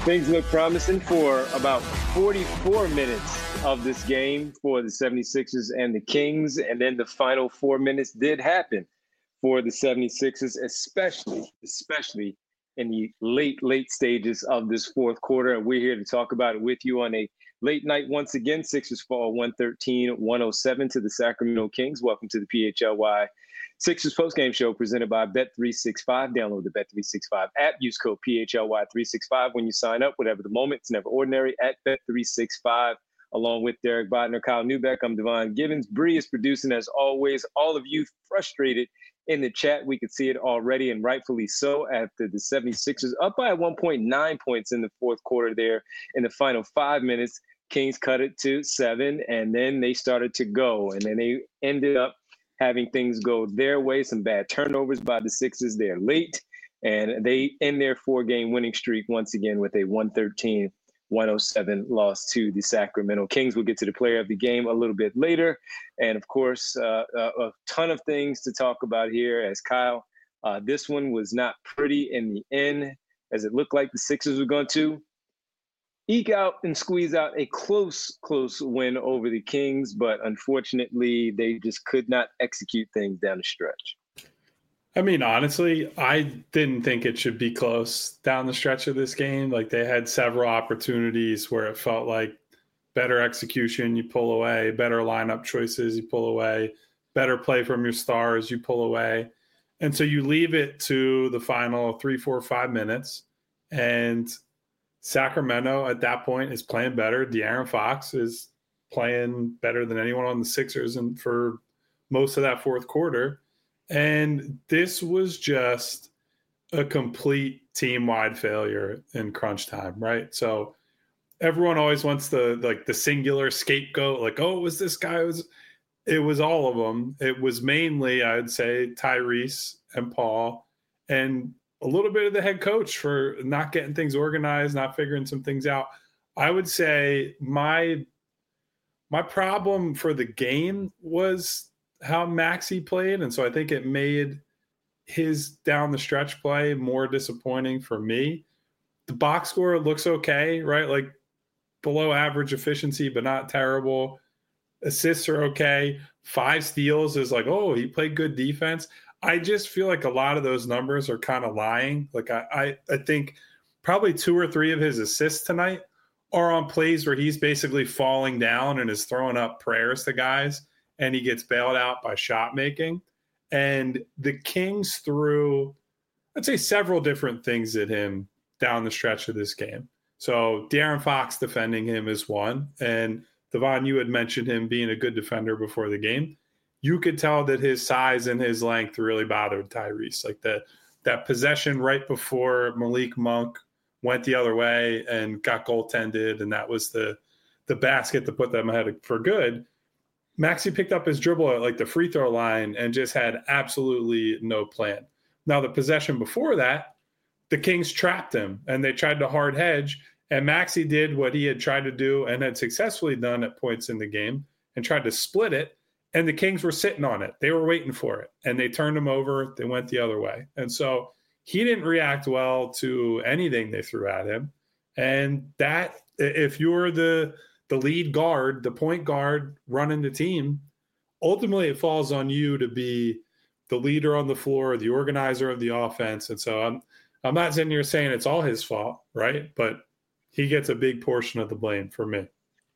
Things look promising for about 44 minutes of this game for the 76ers and the Kings. And then the final 4 minutes did happen for the 76ers, especially in the late stages of this fourth quarter. And we're here to talk about it with you on a late night once again. Sixers fall 113-107 to the Sacramento Kings. Welcome to the PHLY Sixers postgame show presented by Bet365. Download the Bet365 app. Use code PHLY365 when you sign up. Whatever the moment, it's never ordinary at Bet365. Along with Derek Bodner, Kyle Newbeck, I'm Devon Gibbons. Bree is producing as always. All of you frustrated in the chat. We could see it already, and rightfully so, after the 76ers up by 1.9 points in the fourth quarter there in the final 5 minutes. Kings cut it to 7, and then they started to go. And then they ended up having things go their way. Some bad turnovers by the Sixers there late. And they end their 4-game winning streak once again with a 113-107 loss to the Sacramento Kings. We'll get to the player of the game a little bit later. And of course, a ton of things to talk about here as Kyle. This one was not pretty in the end, as it looked like the Sixers were going to eke out and squeeze out a close win over the Kings, but unfortunately, they just could not execute things down the stretch. I mean, honestly, I didn't think it should be close down the stretch of this game. Like, they had several opportunities where it felt like better execution, you pull away, better lineup choices, you pull away, better play from your stars, you pull away. And so you leave it to the final 3, 4, 5 minutes, and Sacramento at that point is playing better. De'Aaron Fox is playing better than anyone on the Sixers and for most of that fourth quarter. And this was just a complete team-wide failure in crunch time, right? So everyone always wants the singular scapegoat, like, oh, it was this guy. It was all of them. It was mainly, I would say, Tyrese and Paul, and a little bit of the head coach for not getting things organized, not figuring some things out. I would say my problem for the game was how Maxey played. And so I think it made his down the stretch play more disappointing for me. The box score looks okay, right? Like below average efficiency, but not terrible. Assists are okay. 5 steals is like, oh, he played good defense. I just feel like a lot of those numbers are kind of lying. Like I think probably 2 or 3 of his assists tonight are on plays where he's basically falling down and is throwing up prayers to guys, and he gets bailed out by shot making. And the Kings threw, I'd say, several different things at him down the stretch of this game. So De'Aaron Fox defending him is one. And Devon, you had mentioned him being a good defender before the game. You could tell that his size and his length really bothered Tyrese. Like that possession right before Malik Monk went the other way and got goaltended, and that was the basket to put them ahead for good. Maxey picked up his dribble at like the free throw line and just had absolutely no plan. Now, the possession before that, the Kings trapped him and they tried to hard hedge, and Maxey did what he had tried to do and had successfully done at points in the game and tried to split it. And the Kings were sitting on it. They were waiting for it. And they turned him over. They went the other way. And so he didn't react well to anything they threw at him. And that, if you're the lead guard, the point guard running the team, ultimately it falls on you to be the leader on the floor, the organizer of the offense. And so I'm not sitting here saying it's all his fault, right? But he gets a big portion of the blame for me.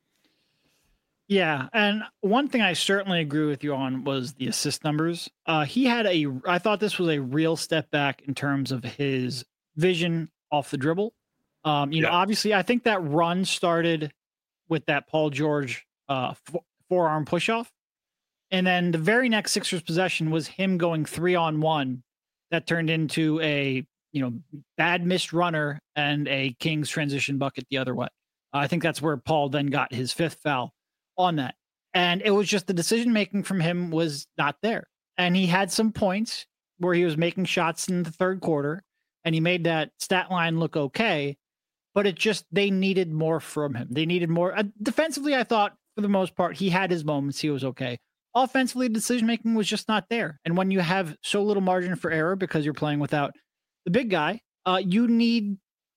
Yeah, and one thing I certainly agree with you on was the assist numbers. I thought this was a real step back in terms of his vision off the dribble. Obviously, I think that run started with that Paul George forearm push-off. And then the very next Sixers possession was him going 3-on-1 that turned into a bad missed runner and a Kings transition bucket the other way. I think that's where Paul then got his 5th foul on that. And it was just the decision making from him was not there. And he had some points where he was making shots in the third quarter and he made that stat line look okay, but they needed more from him. They needed more. Defensively, I thought for the most part, he had his moments. He was okay. Offensively, decision making was just not there. And when you have so little margin for error because you're playing without the big guy, you need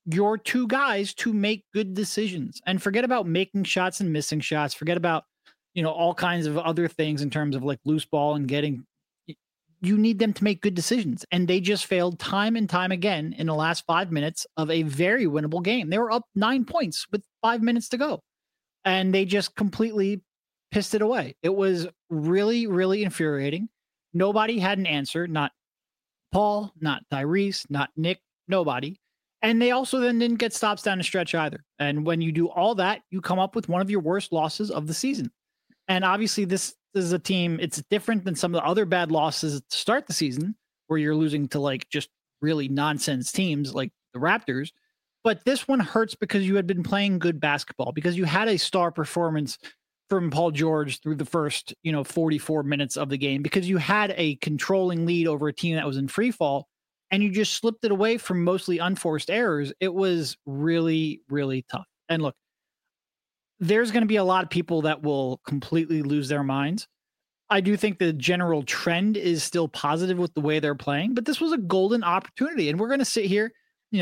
your two guys to make good decisions, and forget about making shots and missing shots. Forget about, all kinds of other things in terms of like loose ball and getting. You need them to make good decisions. And they just failed time and time again in the last 5 minutes of a very winnable game. They were up 9 points with 5 minutes to go, and they just completely pissed it away. It was really, really infuriating. Nobody had an answer. Not Paul, not Tyrese, not Nick, nobody. And they also then didn't get stops down the stretch either. And when you do all that, you come up with one of your worst losses of the season. And obviously this is a team, it's different than some of the other bad losses to start the season where you're losing to like just really nonsense teams like the Raptors. But this one hurts because you had been playing good basketball, because you had a star performance from Paul George through the first, 44 minutes of the game, because you had a controlling lead over a team that was in free fall, and you just slipped it away from mostly unforced errors. It was really, really tough. And look, there's going to be a lot of people that will completely lose their minds. I do think the general trend is still positive with the way they're playing, but this was a golden opportunity. And we're going to sit here,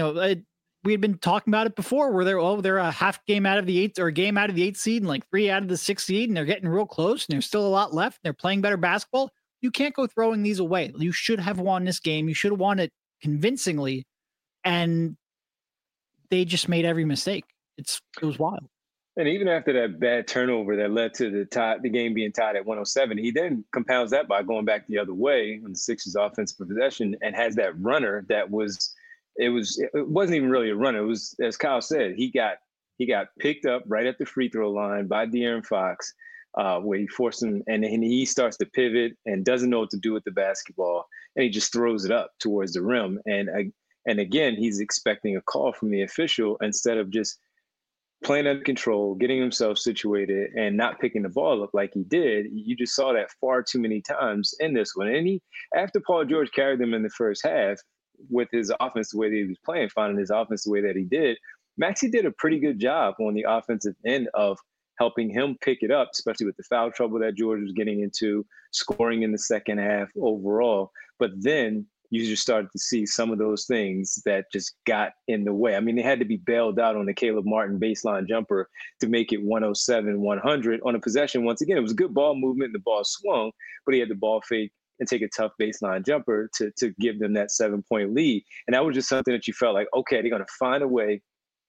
we had been talking about it before where they're a half game out of the 8th or a game out of the 8th seed and like 3 out of the 6th seed, and they're getting real close and there's still a lot left. They're playing better basketball. You can't go throwing these away. You should have won this game. You should have won it convincingly. And they just made every mistake. It was wild. And even after that bad turnover that led to the game being tied at 107, he then compounds that by going back the other way on the Sixers' offensive possession and has that runner that was it wasn't even really a runner. It was, as Kyle said, he got picked up right at the free throw line by De'Aaron Fox, where he forced him, and he starts to pivot and doesn't know what to do with the basketball, and he just throws it up towards the rim. And again, he's expecting a call from the official instead of just playing under control, getting himself situated, and not picking the ball up like he did. You just saw that far too many times in this one. And after Paul George carried them in the first half with his offense the way that he was playing, finding his offense the way that he did, Maxey did a pretty good job on the offensive end of helping him pick it up, especially with the foul trouble that George was getting into, scoring in the second half overall. But then you just started to see some of those things that just got in the way. I mean, they had to be bailed out on the Caleb Martin baseline jumper to make it 107-100 on a possession. Once again, it was a good ball movement. The ball swung, but he had the ball fake and take a tough baseline jumper to give them that 7-point lead. And that was just something that you felt like, okay, they're going to find a way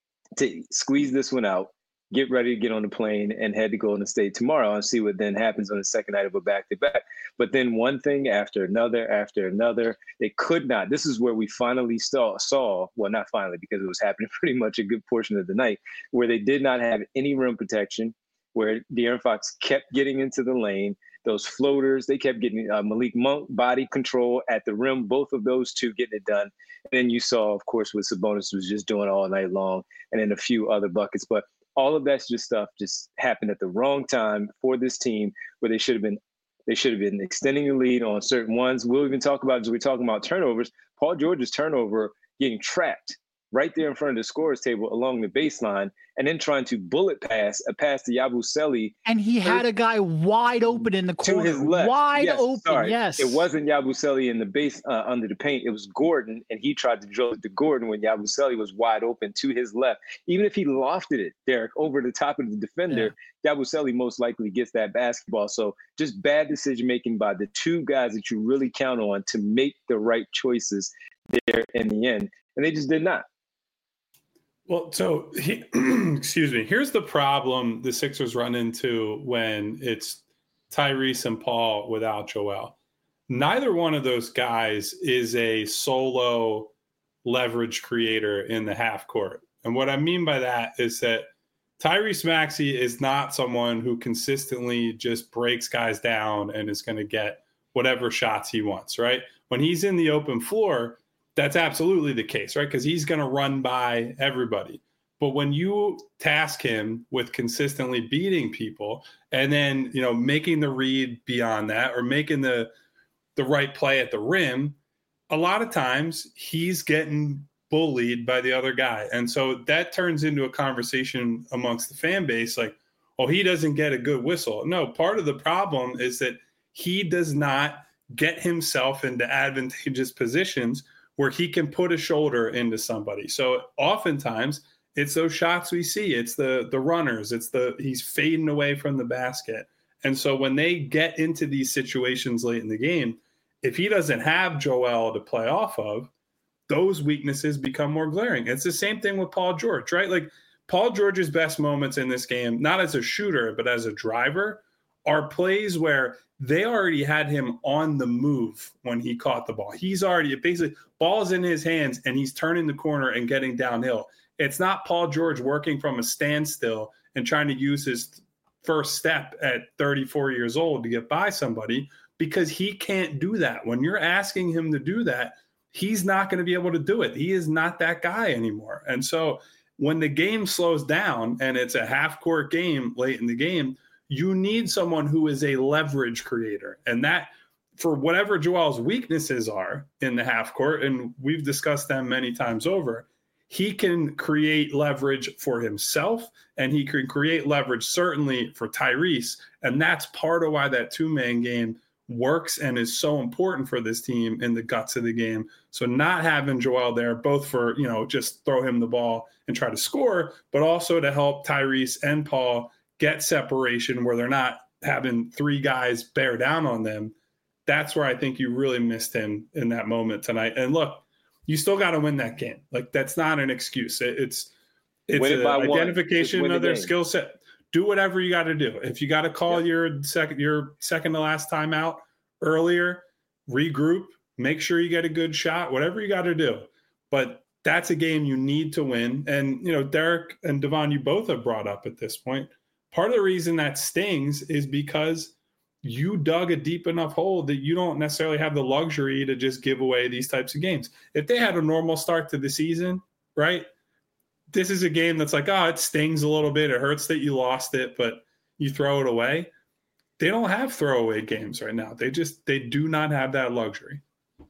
to squeeze this one out, get ready to get on the plane and head to Golden State tomorrow and see what then happens on the second night of a back-to-back. But then one thing after another, they could not. This is where we finally saw, well, not finally, because it was happening pretty much a good portion of the night, where they did not have any rim protection, where De'Aaron Fox kept getting into the lane. Those floaters, they kept getting Malik Monk body control at the rim, both of those two getting it done. And then you saw, of course, what Sabonis was just doing all night long, and then a few other buckets. But all of that just happened at the wrong time for this team, where they should have been extending the lead on certain ones. We'll even talk about, as we're talking about turnovers, Paul George's turnover getting trapped right there in front of the scorer's table along the baseline, and then trying to bullet pass a pass to Yabusele. And he had a guy wide open in the corner. To his left. Wide open, sorry. Yes. It wasn't Yabusele in the base under the paint. It was Gordon, and he tried to drill it to Gordon when Yabusele was wide open to his left. Even if he lofted it, Derek, over the top of the defender, Yabusele most likely gets that basketball. So just bad decision-making by the two guys that you really count on to make the right choices there in the end. And they just did not. Well, so excuse me. Here's the problem the Sixers run into when it's Tyrese and Paul without Joel. Neither one of those guys is a solo leverage creator in the half court. And what I mean by that is that Tyrese Maxey is not someone who consistently just breaks guys down and is going to get whatever shots he wants, right? When he's in the open floor, that's absolutely the case, right? Because he's going to run by everybody. But when you task him with consistently beating people and then, making the read beyond that or making the right play at the rim, a lot of times he's getting bullied by the other guy. And so that turns into a conversation amongst the fan base like, oh, he doesn't get a good whistle. No, part of the problem is that he does not get himself into advantageous positions where he can put a shoulder into somebody. So oftentimes it's those shots we see. It's the runners. He's fading away from the basket. And so when they get into these situations late in the game, if he doesn't have Joel to play off of, those weaknesses become more glaring. It's the same thing with Paul George, right? Like Paul George's best moments in this game, not as a shooter, but as a driver, are plays where they already had him on the move when he caught the ball. He's already basically ball's in his hands and he's turning the corner and getting downhill. It's not Paul George working from a standstill and trying to use his first step at 34 years old to get by somebody, because he can't do that. When you're asking him to do that, he's not going to be able to do it. He is not that guy anymore. And so when the game slows down and it's a half-court game late in the game, you need someone who is a leverage creator. And that, for whatever Joel's weaknesses are in the half court, and we've discussed them many times over, he can create leverage for himself, and he can create leverage certainly for Tyrese. And that's part of why that two-man game works and is so important for this team in the guts of the game. So not having Joel there, both for, just throw him the ball and try to score, but also to help Tyrese and Paul get separation where they're not having three guys bear down on them. That's where I think you really missed him in that moment tonight. And look, you still got to win that game. Like, that's not an excuse. It's an identification of their skill set. Do whatever you got to do. If you got to call your second to last time out earlier, regroup, make sure you get a good shot, whatever you got to do. But that's a game you need to win. And, Derek and Devon, you both have brought up at this point, part of the reason that stings is because you dug a deep enough hole that you don't necessarily have the luxury to just give away these types of games. If they had a normal start to the season, right, this is a game that's like, it stings a little bit. It hurts that you lost it, but you throw it away. They don't have throwaway games right now. They do not have that luxury.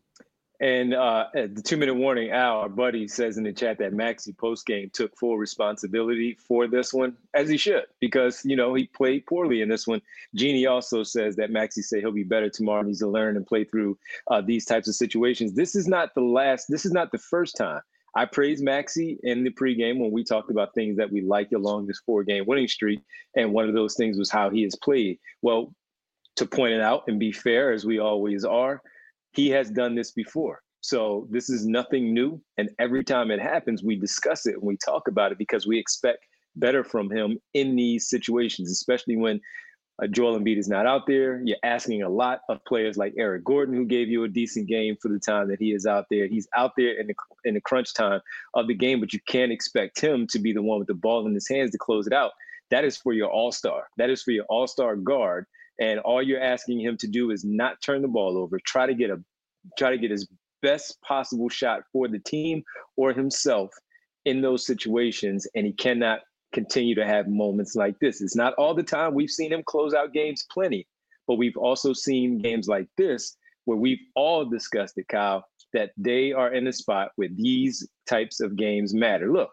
And at the 2-minute warning, Al, our buddy, says in the chat that Maxey postgame took full responsibility for this one, as he should, because, he played poorly in this one. Jeannie also says that Maxey said he'll be better tomorrow, needs to learn and play through these types of situations. This is not the first time. I praised Maxey in the pregame when we talked about things that we liked along this 4-game winning streak. And one of those things was how he has played. Well, to point it out and be fair, as we always are, he has done this before. So this is nothing new. And every time it happens, we discuss it and we talk about it because we expect better from him in these situations, especially when Joel Embiid is not out there. You're asking a lot of players like Eric Gordon, who gave you a decent game for the time that he is out there. He's out there in the crunch time of the game, but you can't expect him to be the one with the ball in his hands to close it out. That is for your all-star. That is for your all-star guard. And all you're asking him to do is not turn the ball over. Try to get his best possible shot for the team or himself in those situations. And he cannot continue to have moments like this. It's not all the time. We've seen him close out games plenty, but we've also seen games like this where we've all discussed it, Kyle, that they are in a spot where these types of games matter. Look,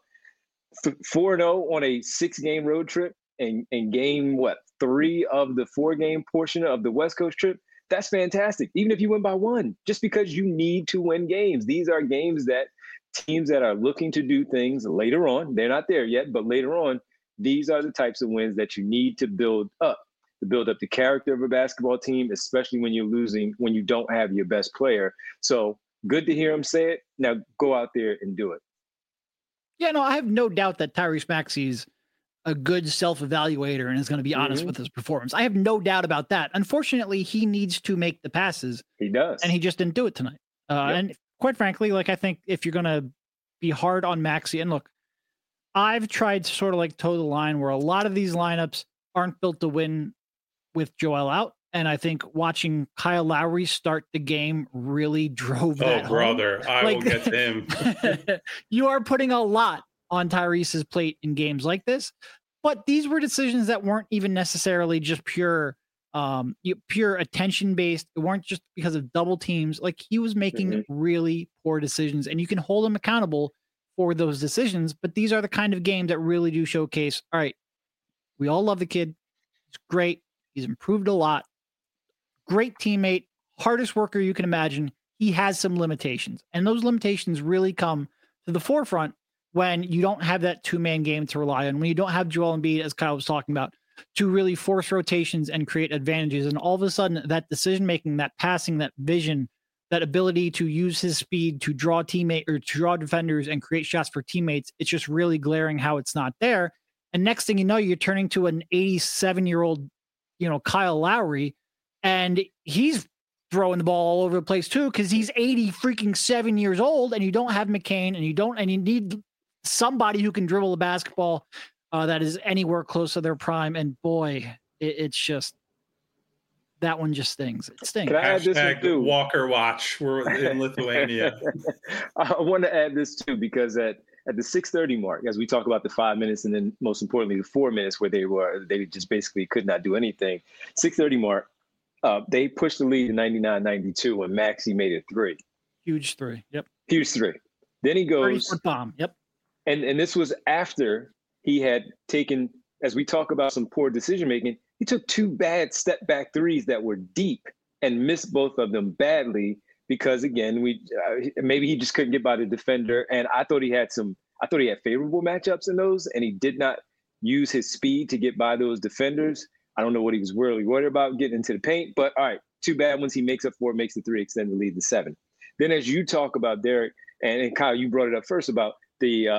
4-0 on a 6-game road trip and game, 3 of the 4-game portion of the West Coast trip, that's fantastic. Even if you win by 1, just because you need to win games. These are games that teams that are looking to do things later on, they're not there yet, but later on, these are the types of wins that you need to build up the character of a basketball team, especially when you're losing, when you don't have your best player. So good to hear him say it. Now go out there and do it. Yeah, no, I have no doubt that Tyrese Maxey's a good self-evaluator and is going to be honest with his performance. I have no doubt about that. Unfortunately, he needs to make the passes. He does. And he just didn't do it tonight. And quite frankly, I think if you're going to be hard on Maxey, and look, I've tried to sort of toe the line where a lot of these lineups aren't built to win with Joel out. And I think watching Kyle Lowry start the game really drove that home. Brother, I will get to him. You are putting a lot on Tyrese's plate in games like this, but these were decisions that weren't even necessarily just pure attention based. It weren't just because of double teams. He was making really poor decisions, and you can hold him accountable for those decisions. But these are the kind of games that really do showcase, all right, we all love the kid. He's great. He's improved a lot. Great teammate, hardest worker you can imagine. he has some limitations. And those limitations really come to the forefront when you don't have that two-man game to rely on, when you don't have Joel Embiid, as Kyle was talking about, to really force rotations and create advantages. And all of a sudden, that decision-making, that passing, that vision, that ability to use his speed to draw to draw defenders and create shots for teammates, it's just really glaring how it's not there. And next thing you know, you're turning to an 87-year-old, Kyle Lowry, and he's throwing the ball all over the place too, because he's 7 years old, and you don't have McCain, and you need somebody who can dribble the basketball that is anywhere close to their prime. And boy, it's just, that one just stings. It stings. Can I add this one too? Walker watch. We're in Lithuania. I want to add this too, because at the 6:30 mark, as we talk about the 5 minutes, and then most importantly, the 4 minutes where they just basically could not do anything. 6:30 mark, they pushed the lead to 99-92 when Maxey made a three. Huge three. Yep. Huge three. Then he goes 30-foot bomb. Yep. And this was after he had taken, as we talk about some poor decision making, he took two bad step back threes that were deep and missed both of them badly because, again, maybe he just couldn't get by the defender. And I thought he had favorable matchups in those, and he did not use his speed to get by those defenders. I don't know what he was really worried about getting into the paint, but all right, two bad ones he makes up for, makes the three, extend the lead to 7. Then as you talk about Derek, and Kyle, you brought it up first about the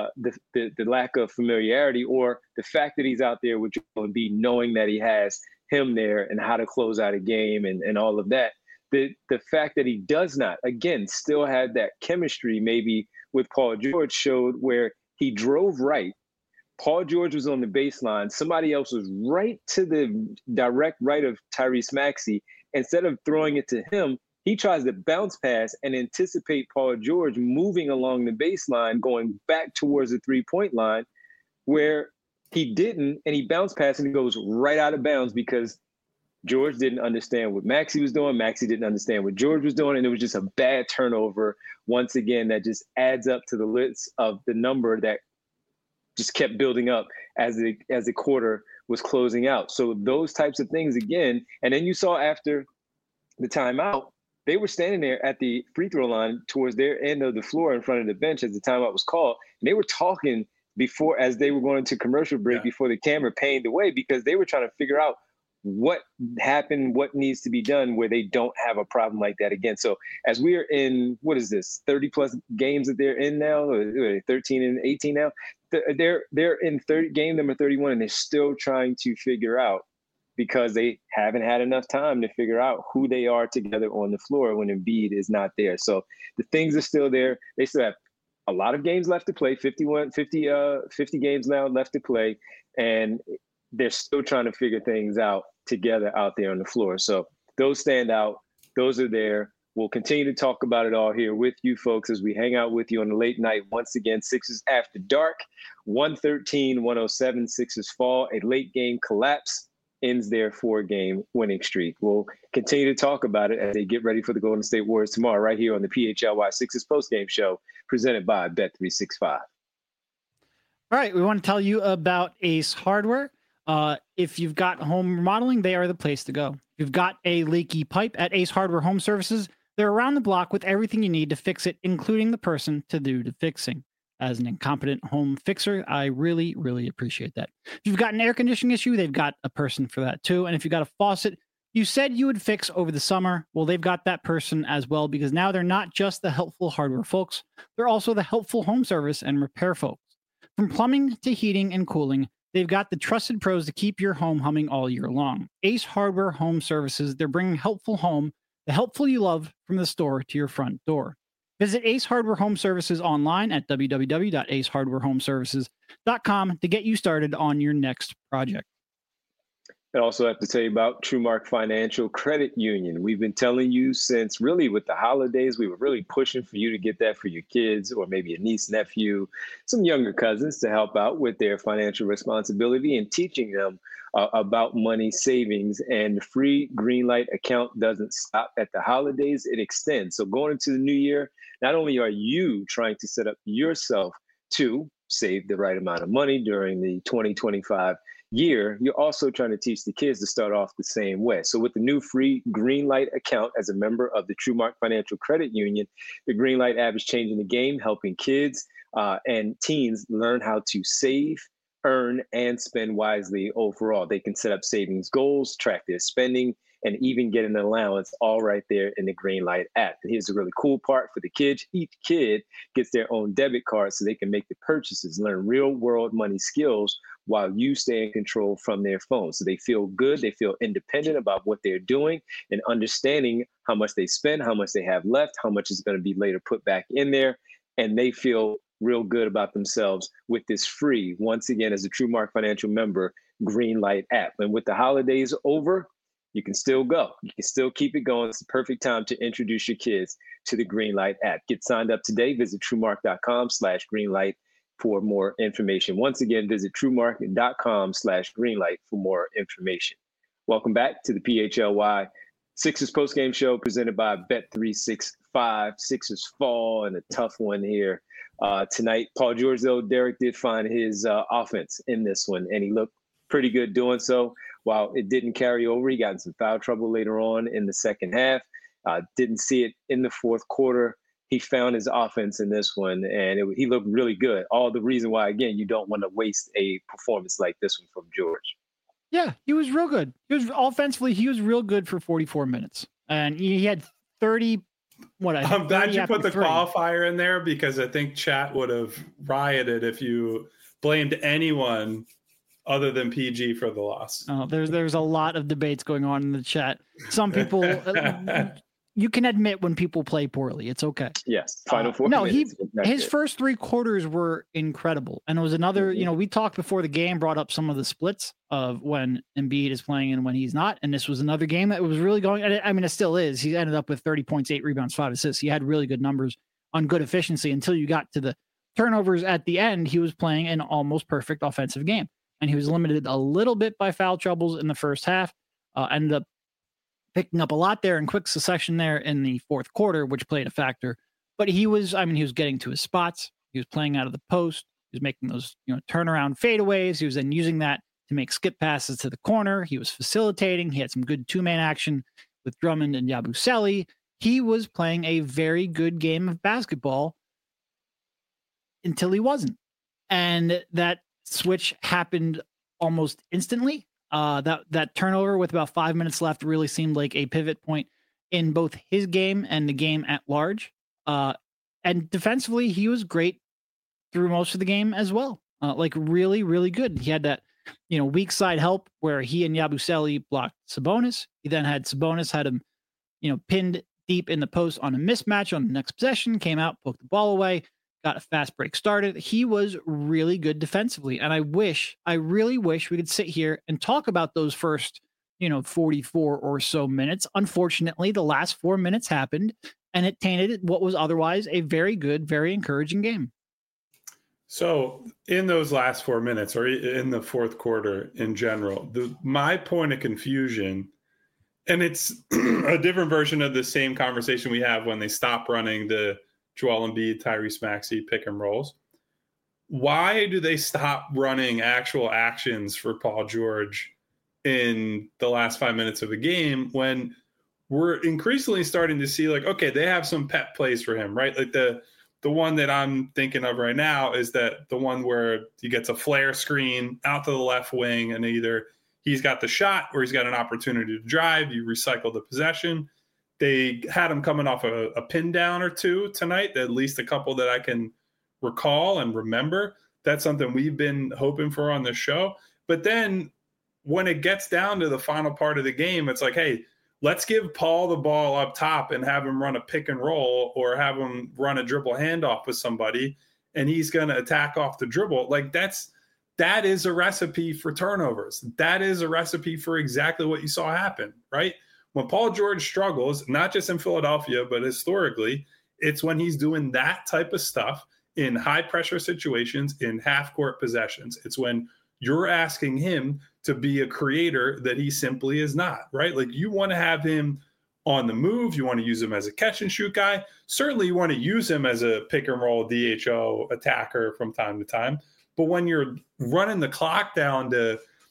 lack of familiarity, or the fact that he's out there with Joel Embiid, knowing that he has him there and how to close out a game and all of that. The fact that he does not, again, still have that chemistry maybe with Paul George showed where he drove right. Paul George was on the baseline. Somebody else was right to the direct right of Tyrese Maxey. Instead of throwing it to him, he tries to bounce pass and anticipate Paul George moving along the baseline, going back towards the three-point line, where he didn't, and he bounced pass and he goes right out of bounds because George didn't understand what Maxey was doing. Maxey didn't understand what George was doing, and it was just a bad turnover once again that just adds up to the list of the number that just kept building up as the quarter was closing out. So those types of things again, and then you saw after the timeout, they were standing there at the free throw line towards their end of the floor in front of the bench as the timeout was called. And they were talking before, as they were going to commercial break, before the camera panned away, because they were trying to figure out what happened, what needs to be done where they don't have a problem like that again. So as we are in, 30 plus games that they're in now, or 13 and 18 now, they're in game number 31, and they're still trying to figure out, because they haven't had enough time to figure out who they are together on the floor when Embiid is not there. So the things are still there. They still have a lot of games left to play, 50 games now left to play, and they're still trying to figure things out together out there on the floor. So those stand out. Those are there. We'll continue to talk about it all here with you folks as we hang out with you on the late night. Once again, Sixers After Dark, 113-107. Sixers fall. A late game collapse ends their 4-game winning streak. We'll continue to talk about it as they get ready for the Golden State Warriors tomorrow right here on the PHLY Sixers postgame show presented by Bet365. All right, we want to tell you about Ace Hardware. If you've got home remodeling, they are the place to go. If you've got a leaky pipe at Ace Hardware Home Services, they're around the block with everything you need to fix it, including the person to do the fixing. As an incompetent home fixer, I really, really appreciate that. If you've got an air conditioning issue, they've got a person for that too. And if you've got a faucet you said you would fix over the summer, well, they've got that person as well, because now they're not just the helpful hardware folks, they're also the helpful home service and repair folks. From plumbing to heating and cooling, they've got the trusted pros to keep your home humming all year long. Ace Hardware Home Services, they're bringing helpful home, the helpful you love, from the store to your front door. Visit Ace Hardware Home Services online at www.acehardwarehomeservices.com to get you started on your next project. I also have to tell you about TrueMark Financial Credit Union. We've been telling you since really with the holidays, we were really pushing for you to get that for your kids or maybe a niece, nephew, some younger cousins to help out with their financial responsibility and teaching them about money savings. And the free Greenlight account doesn't stop at the holidays, it extends. So going into the new year, not only are you trying to set up yourself to save the right amount of money during the 2025 year, you're also trying to teach the kids to start off the same way. So with the new free Greenlight account as a member of the TrueMark Financial Credit Union, the Greenlight app is changing the game, helping kids and teens learn how to save, earn, and spend wisely overall. They can set up savings goals, track their spending, and even get an allowance all right there in the Greenlight app. And here's the really cool part for the kids. Each kid gets their own debit card so they can make the purchases, learn real world money skills while you stay in control from their phone. So they feel good, they feel independent about what they're doing and understanding how much they spend, how much they have left, how much is going to be later put back in there. And they feel real good about themselves with this free, once again, as a TrueMark Financial member, Greenlight app. And with the holidays over, you can still go. You can still keep it going. It's the perfect time to introduce your kids to the Greenlight app. Get signed up today. Visit TrueMark.com/Greenlight for more information. Once again, visit TrueMark.com/Greenlight for more information. Welcome back to the PHLY Sixers postgame show presented by Bet365. Sixers fall and a tough one here tonight. Paul George, though, Derek did find his offense in this one, and he looked pretty good doing so. While it didn't carry over, he got in some foul trouble later on in the second half. Didn't see it in the fourth quarter. He found his offense in this one, and he looked really good. All the reason why, again, you don't want to waste a performance like this one from George. Yeah, he was real good. He was offensively, he was real good for 44 minutes. And he had 30. I'm glad you put the qualifier in there because I think chat would have rioted if you blamed anyone other than PG for the loss. Oh, there's a lot of debates going on in the chat. Some people, you can admit when people play poorly. It's okay. Yes. Final 4 No, minutes. His first 3 quarters were incredible. And it was another, we talked before the game, brought up some of the splits of when Embiid is playing and when he's not. And this was another game that was really going. I mean, it still is. He ended up with 30 points, 8 rebounds, 5 assists. He had really good numbers on good efficiency until you got to the turnovers at the end. He was playing an almost perfect offensive game. And he was limited a little bit by foul troubles in the first half. Ended up picking up a lot there in quick succession there in the fourth quarter, which played a factor. But he was getting to his spots. He was playing out of the post. He was making those, turnaround fadeaways. He was then using that to make skip passes to the corner. He was facilitating. He had some good two-man action with Drummond and Yabusele. He was playing a very good game of basketball until he wasn't. And that switch happened almost instantly. That turnover with about 5 minutes left really seemed like a pivot point in both his game and the game at large. And defensively, he was great through most of the game as well. Really, really good. He had that, weak side help where he and Yabusele blocked Sabonis. He then had Sabonis had him, pinned deep in the post on a mismatch on the next possession, came out, poked the ball away, got a fast break started. He was really good defensively. And I really wish we could sit here and talk about those first, 44 or so minutes. Unfortunately, the last 4 minutes happened and it tainted what was otherwise a very good, very encouraging game. So in those last 4 minutes or in the fourth quarter in general, my point of confusion, and it's a different version of the same conversation we have when they stop running the Joel Embiid, Tyrese Maxey pick and rolls. Why do they stop running actual actions for Paul George in the last 5 minutes of a game when we're increasingly starting to see okay, they have some pet plays for him, right? Like the one that I'm thinking of right now is that the one where he gets a flare screen out to the left wing and either he's got the shot or he's got an opportunity to drive. You recycle the possession. They had him coming off a pin down or two tonight, at least a couple that I can recall and remember. That's something we've been hoping for on this show. But then when it gets down to the final part of the game, it's like, hey, let's give Paul the ball up top and have him run a pick and roll or have him run a dribble handoff with somebody, and he's going to attack off the dribble. That is a recipe for turnovers. That is a recipe for exactly what you saw happen, right? When Paul George struggles, not just in Philadelphia, but historically, it's when he's doing that type of stuff in high-pressure situations, in half-court possessions. It's when you're asking him to be a creator that he simply is not, right? You want to have him on the move. You want to use him as a catch-and-shoot guy. Certainly, you want to use him as a pick-and-roll DHO attacker from time to time. But when you're running the clock down to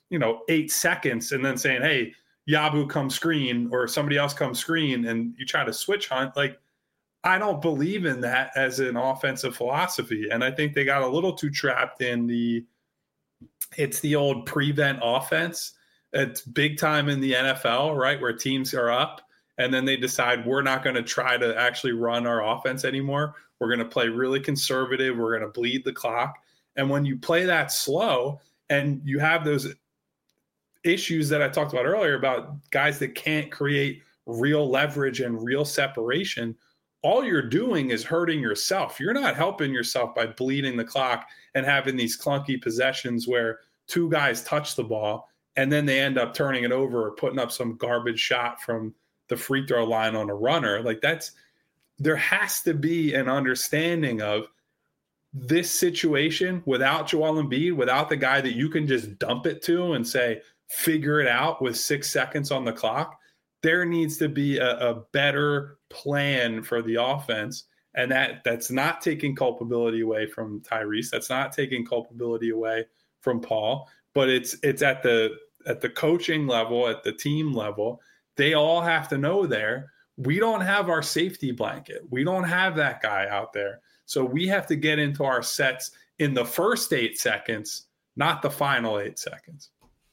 8 seconds and then saying, hey, Yabu come screen or somebody else come screen, and you try to switch hunt. Like, I don't believe in that as an offensive philosophy. And I think they got a little too trapped in it's the old prevent offense. It's big time in the NFL, right? Where teams are up and then they decide we're not going to try to actually run our offense anymore. We're going to play really conservative. We're going to bleed the clock. And when you play that slow and you have those issues that I talked about earlier about guys that can't create real leverage and real separation, all you're doing is hurting yourself. You're not helping yourself by bleeding the clock and having these clunky possessions where 2 guys touch the ball and then they end up turning it over or putting up some garbage shot from the free throw line on a runner. Like, there has to be an understanding of this situation without Joel Embiid, without the guy that you can just dump it to and say, figure it out with 6 seconds on the clock. There needs to be a better plan for the offense. And that's not taking culpability away from Tyrese. That's not taking culpability away from Paul, but it's at the coaching level, at the team level. They all have to know we don't have our safety blanket. We don't have that guy out there. So we have to get into our sets in the first 8 seconds, not the final 8 seconds.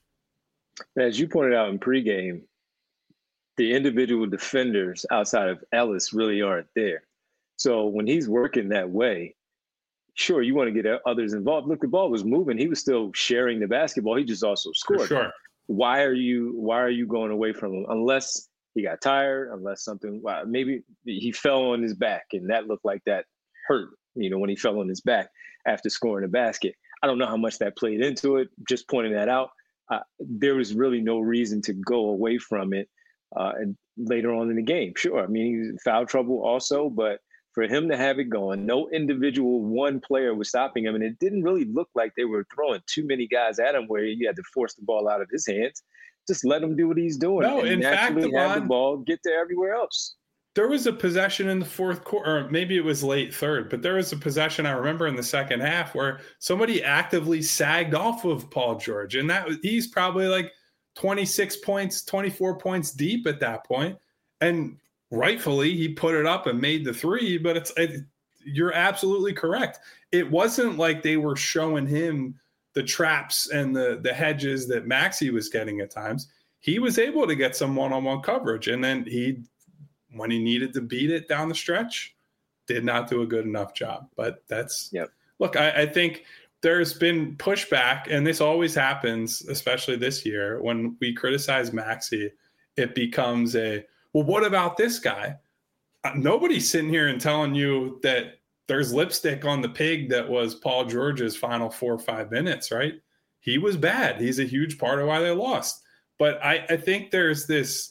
As you pointed out in pregame, the individual defenders outside of Ellis really aren't there. So when he's working that way, sure, you want to get others involved. Look, the ball was moving. He was still sharing the basketball. He just also scored. For sure. Why are you going away from him? Unless he got tired, unless maybe he fell on his back and that looked like that hurt, when he fell on his back after scoring a basket. I don't know how much that played into it. Just pointing that out. There was really no reason to go away from it and later on in the game. Sure, I mean, he was in foul trouble also, but for him to have it going, no individual one player was stopping him, and it didn't really look like they were throwing too many guys at him where you had to force the ball out of his hands. Just let him do what he's doing. No, in fact, have the ball get to everywhere else. There was a possession in the fourth quarter, or maybe it was late third, but there was a possession I remember in the second half where somebody actively sagged off of Paul George. And he's probably like 26 points, 24 points deep at that point. And rightfully, he put it up and made the three, but you're absolutely correct. It wasn't like they were showing him the traps and the hedges that Maxey was getting at times. He was able to get some one-on-one coverage. And then when he needed to beat it down the stretch, did not do a good enough job. But look, I think there's been pushback, and this always happens, especially this year, when we criticize Maxey, it becomes well, what about this guy? Nobody's sitting here and telling you that there's lipstick on the pig that was Paul George's final 4 or 5 minutes, right? He was bad. He's a huge part of why they lost. But I think there's this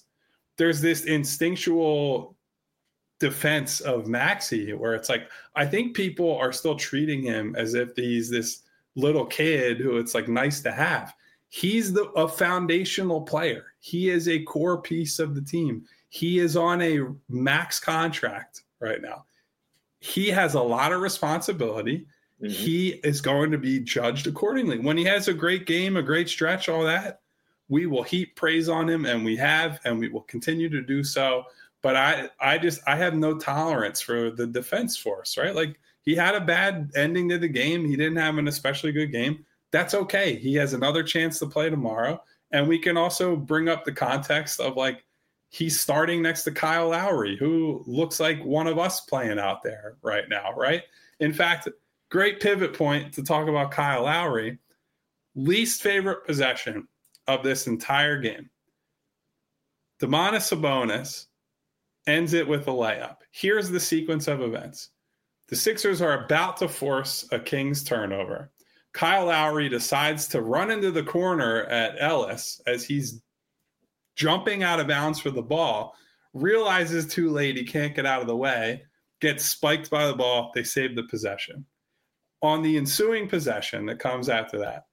instinctual defense of Maxey where it's like, I think people are still treating him as if he's this little kid who it's like nice to have. He's a foundational player. He is a core piece of the team. He is on a max contract right now. He has a lot of responsibility. Mm-hmm. He is going to be judged accordingly. When he has a great game, a great stretch, all that, we will heap praise on him, and we will continue to do so. But I have no tolerance for the defense force, right? Like, he had a bad ending to the game. He didn't have an especially good game. That's okay. He has another chance to play tomorrow. And we can also bring up the context of, like, he's starting next to Kyle Lowry, who looks like one of us playing out there right now, right? In fact, great pivot point to talk about Kyle Lowry. Least favorite possession of this entire game. Domantas Sabonis ends it with a layup. Here's the sequence of events. The Sixers are about to force a Kings turnover. Kyle Lowry decides to run into the corner at Ellis as he's jumping out of bounds for the ball, realizes too late he can't get out of the way, gets spiked by the ball. They save the possession. On the ensuing possession that comes after that,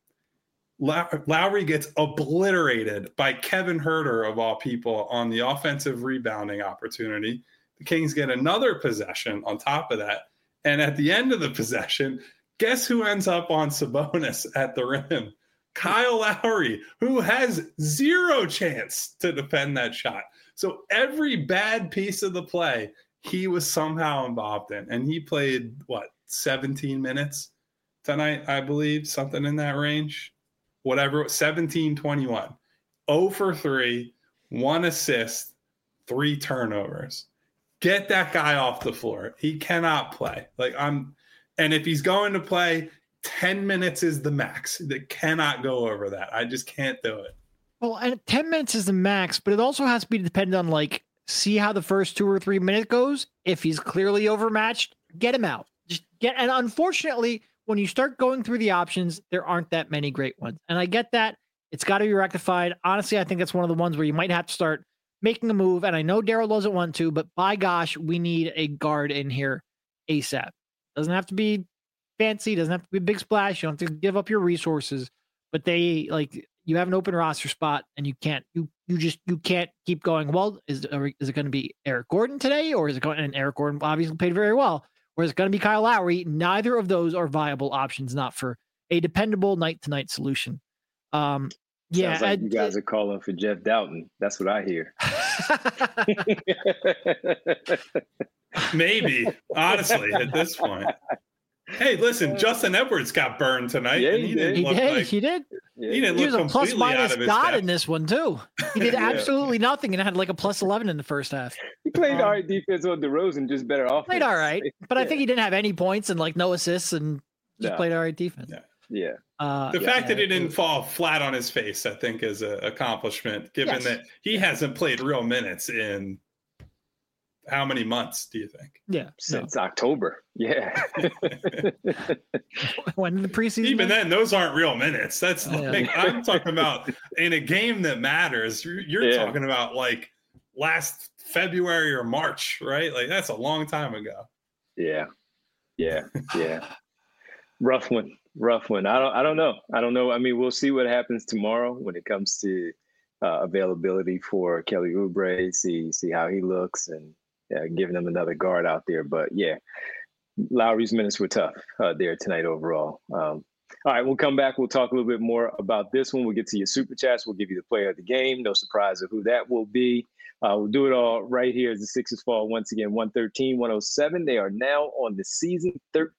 Lowry gets obliterated by Kevin Huerter, of all people, on the offensive rebounding opportunity. The Kings get another possession on top of that. And at the end of the possession, guess who ends up on Sabonis at the rim? Kyle Lowry, who has zero chance to defend that shot. So every bad piece of the play, he was somehow involved in. And he played, 17 minutes tonight, I believe, something in that range. Whatever, 17-21. 0 for 3, 1 assist, 3 turnovers. Get that guy off the floor. He cannot play. And if he's going to play, 10 minutes is the max. That cannot go over that. I just can't do it. Well, and 10 minutes is the max, but it also has to be dependent on see how the first 2 or 3 minutes goes. If he's clearly overmatched, get him out. And unfortunately, when you start going through the options, there aren't that many great ones. And I get that. It's got to be rectified. Honestly, I think that's one of the ones where you might have to start making a move. And I know Daryl doesn't want to, but by gosh, we need a guard in here ASAP. Doesn't have to be fancy, doesn't have to be a big splash. You don't have to give up your resources, but you have an open roster spot and you can't keep going. Well, is it going to be Eric Gordon today, or is it going? And Eric Gordon obviously played very well. Or is it going to be Kyle Lowry? Neither of those are viable options, not for a dependable night-to-night solution. Sounds like you guys are calling for Jeff Doughton. That's what I hear. Maybe, honestly, at this point. Hey, listen, Justin Edwards got burned tonight. Yeah, and he did. He did. He didn't He look was a plus completely minus out of his god depth. in this one too. He did absolutely nothing and had a plus 11 in the first half. He played all right defense on DeRozan, just better offense. Played all right, but I think he didn't have any points and no assists and just played all right defense. Yeah. The fact that he didn't fall flat on his face, I think, is an accomplishment, given that he hasn't played real minutes in how many months, do you think? Yeah. Since October. Yeah. When did the preseason? Even then, those aren't real minutes. That's I'm talking about in a game that matters. You're talking about last February or March, right? That's a long time ago. Yeah. Rough one. I don't know. I mean, we'll see what happens tomorrow when it comes to availability for Kelly Oubre. See how he looks and giving them another guard out there. But yeah, Lowry's minutes were tough there tonight overall. All right, we'll come back. We'll talk a little bit more about this one. We'll get to your super chats. We'll give you the player of the game. No surprise of who that will be. We'll do it all right here as the Sixers fall once again, 113-107. They are now on the season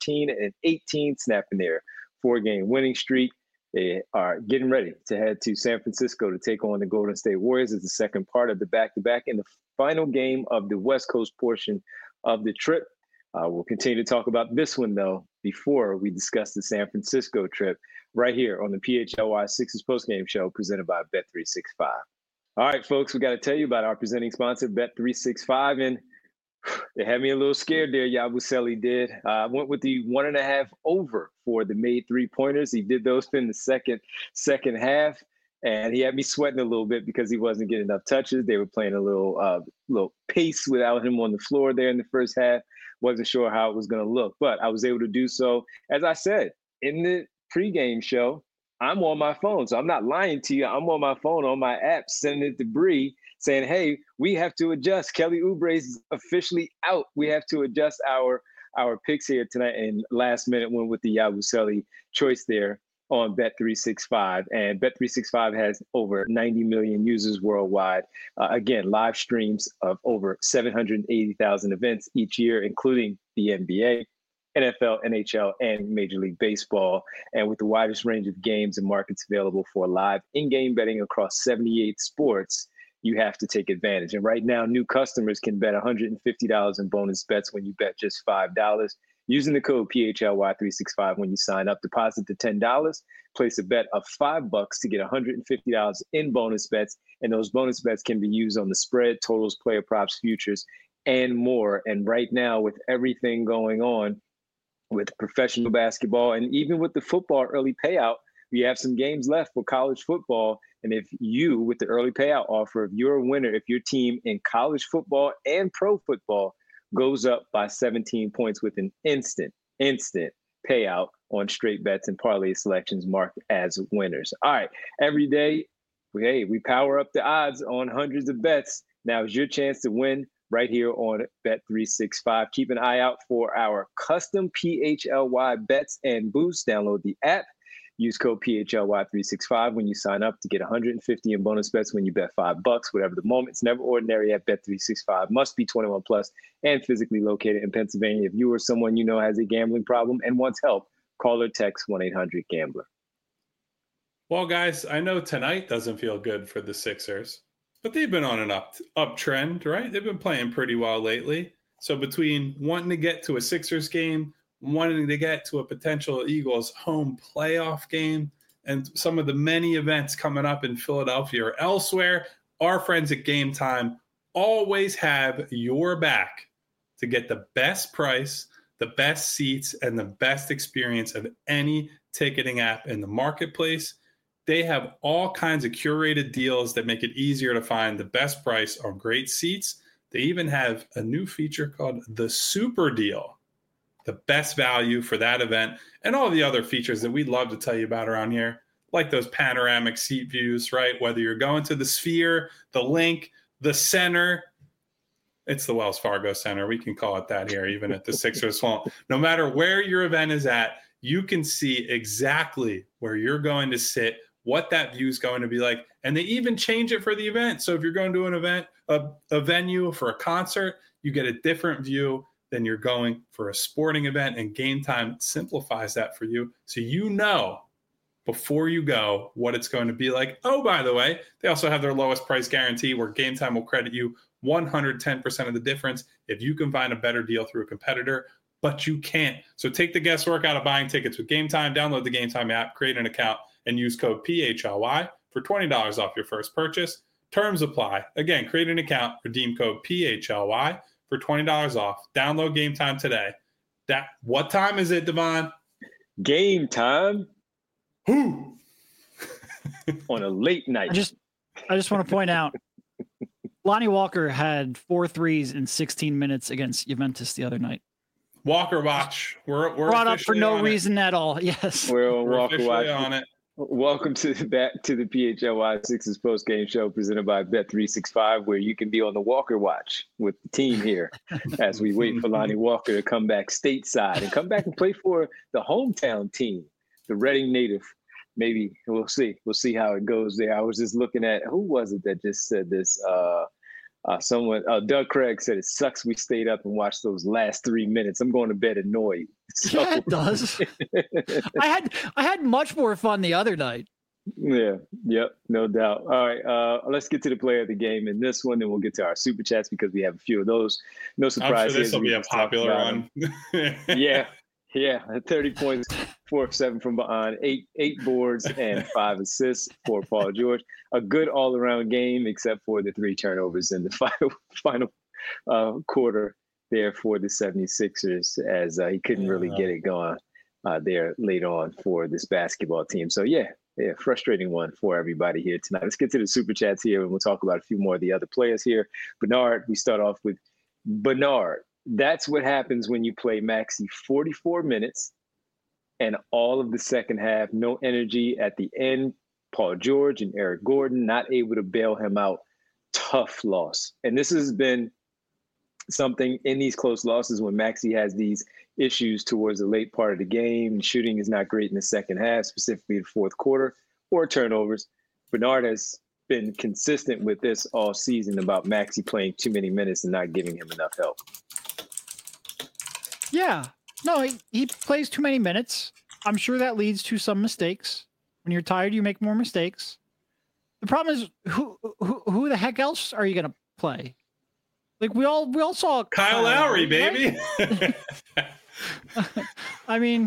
13-18, snapping their 4-game winning streak. They are getting ready to head to San Francisco to take on the Golden State Warriors as the second part of the back-to-back in the final game of the West Coast portion of the trip. We'll continue to talk about this one, though, before we discuss the San Francisco trip right here on the PHLY Sixers postgame show presented by Bet365. All right, folks, we got to tell you about our presenting sponsor, Bet365. And they had me a little scared there, Yabusele did. I went with the 1.5 over for the made 3-pointers. He did those in the second half. And he had me sweating a little bit because he wasn't getting enough touches. They were playing a little pace without him on the floor there in the first half. Wasn't sure how it was going to look, but I was able to do so. As I said, in the pregame show, I'm on my phone. So I'm not lying to you. I'm on my phone, on my app, sending it to Bree, saying, hey, we have to adjust. Kelly Oubre is officially out. We have to adjust our picks here tonight. And last minute went with the Yabusele choice there on Bet365. And Bet365 has over 90 million users worldwide. Again, live streams of over 780,000 events each year, including the NBA, NFL, NHL, and Major League Baseball. And with the widest range of games and markets available for live in-game betting across 78 sports, you have to take advantage. And right now, new customers can bet $150 in bonus bets when you bet just $5. Using the code PHLY365 when you sign up, deposit the $10, place a bet of $5 to get $150 in bonus bets. And those bonus bets can be used on the spread, totals, player props, futures, and more. And right now, with everything going on with professional basketball and even with the football early payout, we have some games left for college football. And if you, with the early payout offer, if you're a winner, if your team in college football and pro football goes up by 17 points with an instant payout on straight bets and parlay selections marked as winners. All right, every day, we power up the odds on hundreds of bets. Now is your chance to win right here on Bet365. Keep an eye out for our custom PHLY bets and boosts. Download the app. Use code PHLY365 when you sign up to get $150 in bonus bets when you bet $5. Whatever the moment, it's never ordinary at Bet365. Must be 21 plus and physically located in Pennsylvania. If you or someone you know has a gambling problem and wants help, call or text 1-800-GAMBLER. Well, guys, I know tonight doesn't feel good for the Sixers, but they've been on an uptrend, right? They've been playing pretty well lately. So between wanting to get to a Sixers game, wanting to get to a potential Eagles home playoff game, and some of the many events coming up in Philadelphia or elsewhere, our friends at Game Time always have your back to get the best price, the best seats, and the best experience of any ticketing app in the marketplace. They have all kinds of curated deals that make it easier to find the best price on great seats. They even have a new feature called the Super Deal, the best value for that event, and all the other features that we'd love to tell you about around here, like those panoramic seat views, right? Whether you're going to the Sphere, the Link, the Center, it's the Wells Fargo Center. We can call it that here, even at the Sixers home. No matter where your event is at, you can see exactly where you're going to sit, what that view is going to be like. And they even change it for the event. So if you're going to an event, a venue for a concert, you get a different view than you're going for a sporting event. And Game Time simplifies that for you. So you know before you go what it's going to be like. Oh, by the way, they also have their lowest price guarantee where Game Time will credit you 110% of the difference if you can find a better deal through a competitor, but you can't. So take the guesswork out of buying tickets with Game Time. Download the Game Time app, create an account, and use code PHLY for $20 off your first purchase. Terms apply. Again, create an account, redeem code PHLY for $20 off. Download Game Time today. What time is it, Devon? Game time. Who? On a late night. I just want to point out, Lonnie Walker had 4 threes in 16 minutes against Juventus the other night. Walker watch. We're brought up for no reason at all. Yes, we're on Walker watch. On it. Welcome back to the PHLY Sixers post game show presented by Bet365, where you can be on the Walker watch with the team here as we wait for Lonnie Walker to come back stateside and come back and play for the hometown team, the Reading native. Maybe we'll see. We'll see how it goes there. I was just looking at, who was it that just said this? Doug Craig said, it sucks we stayed up and watched those last 3 minutes. I'm going to bed annoyed. So. Yeah, it does. I had much more fun the other night. Yeah, yep, no doubt. All right, let's get to the player of the game in this one, and we'll get to our super chats because we have a few of those. No surprise. I'm sure this will be a popular one. Yeah, 30 points, 4 of 7 from behind, eight boards, and 5 assists for Paul George. A good all-around game, except for the 3 turnovers in the final quarter there for the 76ers, as he couldn't really get it going there late on for this basketball team. So, yeah, frustrating one for everybody here tonight. Let's get to the super chats here, and we'll talk about a few more of the other players here. Bernard, we start off with Bernard. That's what happens when you play Maxey 44 minutes and all of the second half, no energy at the end. Paul George and Eric Gordon not able to bail him out. Tough loss. And this has been something in these close losses when Maxey has these issues towards the late part of the game. Shooting is not great in the second half, specifically the fourth quarter, or turnovers. Bernard has been consistent with this all season about Maxey playing too many minutes and not giving him enough help. Yeah. No, he plays too many minutes. I'm sure that leads to some mistakes. When you're tired, you make more mistakes. The problem is, who the heck else are you going to play? Like we all saw Kyle Lowry, baby. Right? I mean,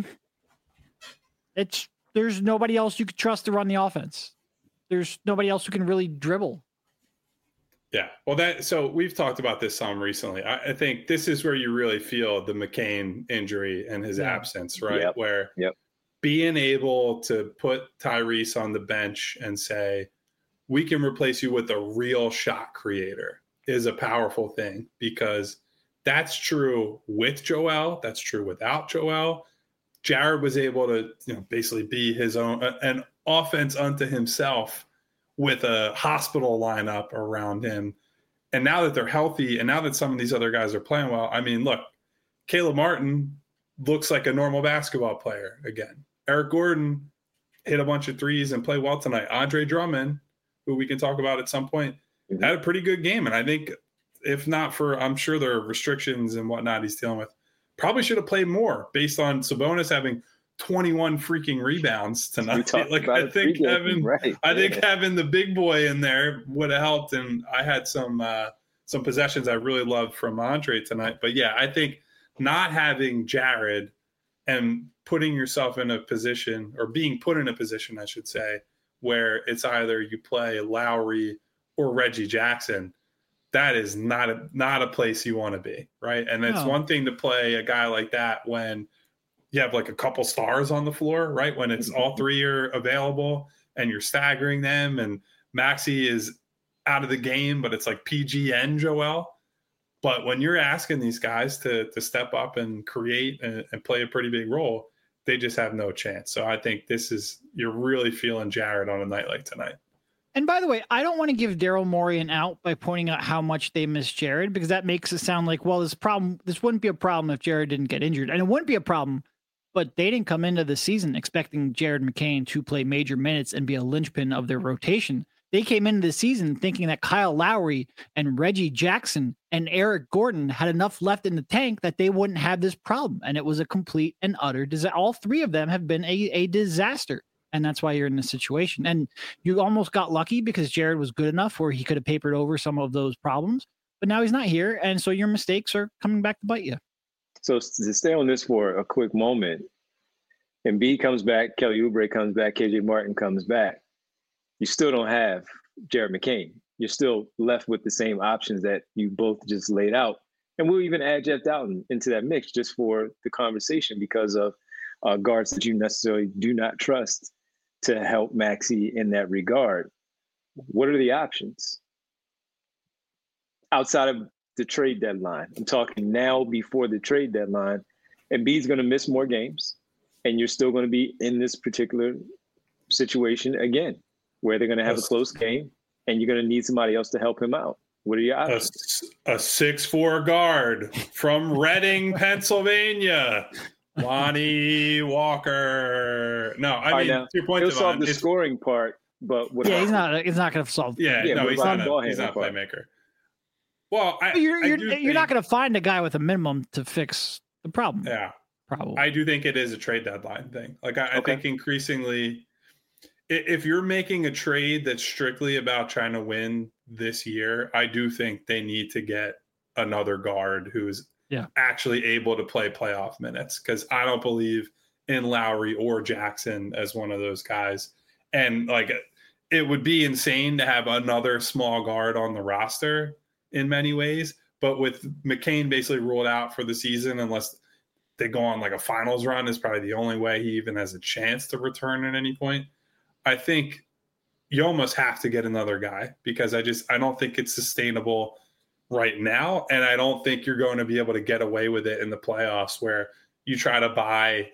there's nobody else you could trust to run the offense. There's nobody else who can really dribble. Yeah, well, so we've talked about this some recently. I think this is where you really feel the McCain injury and his absence, right? Yep. Where being able to put Tyrese on the bench and say, we can replace you with a real shot creator is a powerful thing, because that's true with Joel. That's true without Joel. Jared was able to, basically be his own, an offense unto himself with a hospital lineup around him. And now that they're healthy, and now that some of these other guys are playing well, I mean, look, Caleb Martin looks like a normal basketball player again. Eric Gordon hit a bunch of threes and play well tonight. Andre Drummond, who we can talk about at some point, had a pretty good game. And I think if not for, I'm sure there are restrictions and whatnot he's dealing with, probably should have played more based on Sabonis having 21 freaking rebounds tonight. Like I think having the big boy in there would have helped. And I had some possessions I really loved from Andre tonight. But yeah, I think not having Jared and putting yourself in a position, or being put in a position, I should say, where it's either you play Lowry or Reggie Jackson, that is not a place you want to be, right? And it's one thing to play a guy like that when you have like a couple stars on the floor, right? When it's all three are available and you're staggering them, and Maxey is out of the game, but it's like PG and Joel. But when you're asking these guys to step up and create and play a pretty big role, they just have no chance. So I think you're really feeling Jared on a night like tonight. And by the way, I don't want to give Daryl Morey an out by pointing out how much they miss Jared, because that makes it sound like, well, this wouldn't be a problem if Jared didn't get injured. And it wouldn't be a problem, but they didn't come into the season expecting Jared McCain to play major minutes and be a linchpin of their rotation. They came into the season thinking that Kyle Lowry and Reggie Jackson and Eric Gordon had enough left in the tank that they wouldn't have this problem. And it was a complete and utter disaster. All three of them have been a disaster. And that's why you're in this situation. And you almost got lucky because Jared was good enough where he could have papered over some of those problems. But now he's not here. And so your mistakes are coming back to bite you. So to stay on this for a quick moment, Embiid comes back, Kelly Oubre comes back, KJ Martin comes back. You still don't have Jared McCain. You're still left with the same options that you both just laid out. And we'll even add Jeff Dowtin into that mix just for the conversation because of guards that you necessarily do not trust to help Maxey in that regard. What are the options outside of the trade deadline? I'm talking now before the trade deadline. Embiid's going to miss more games, and you're still going to be in this particular situation again, where they're going to have a close game, and you're going to need somebody else to help him out. What are your options? A 6'4" guard from Reading, Pennsylvania, Lonnie Walker. No, I mean, now, 2 points. He'll solve the scoring part, but he's not going to solve. Yeah, no, he's not a playmaker. Well, you're not going to find a guy with a minimum to fix the problem. Yeah, probably. I do think it is a trade deadline thing. Like I think increasingly, if you're making a trade that's strictly about trying to win this year, I do think they need to get another guard who's actually able to play playoff minutes, because I don't believe in Lowry or Jackson as one of those guys. And like, it would be insane to have another small guard on the roster in many ways, but with McCain basically ruled out for the season, unless they go on like a finals run, is probably the only way he even has a chance to return at any point. I think you almost have to get another guy, because I don't think it's sustainable right now. And I don't think you're going to be able to get away with it in the playoffs, where you try to buy,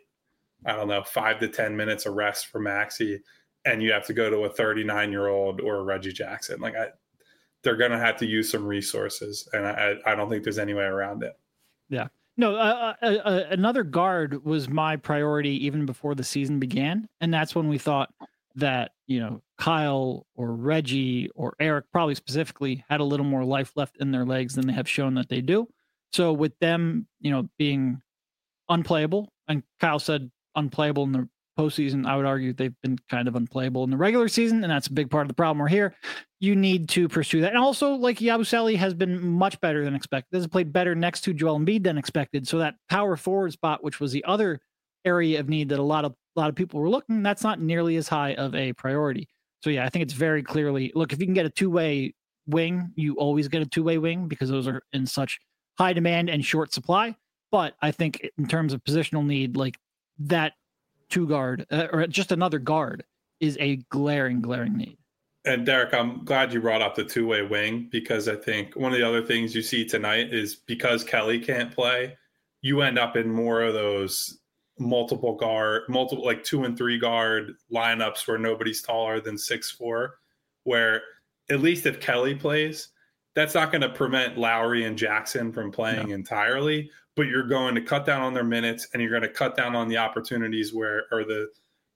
5 to 10 minutes of rest for Maxey, and you have to go to a 39-year-old or a Reggie Jackson. Like they're going to have to use some resources, and I don't think there's any way around it. Yeah. No, another guard was my priority even before the season began. And that's when we thought that, Kyle or Reggie or Eric probably specifically had a little more life left in their legs than they have shown that they do. So with them, being unplayable, and Kyle said unplayable in the postseason, I would argue they've been kind of unplayable in the regular season, and that's a big part of the problem we're here. You need to pursue that. And also, like, Yabusele has been much better than expected. Has played better next to Joel Embiid than expected. So that power forward spot, which was the other area of need that a lot of people were looking, that's not nearly as high of a priority. So yeah, I think it's very clearly, look, if you can get a two-way wing, you always get a two-way wing, because those are in such high demand and short supply. But I think in terms of positional need, like that two guard or just another guard is a glaring need. And Derek, I'm glad you brought up the two-way wing, because I think one of the other things you see tonight is because Kelly can't play, you end up in more of those multiple like 2 and 3 guard lineups where nobody's taller than 6'4", where at least if Kelly plays, that's not going to prevent Lowry and Jackson from playing entirely, but you're going to cut down on their minutes, and you're going to cut down on the opportunities or the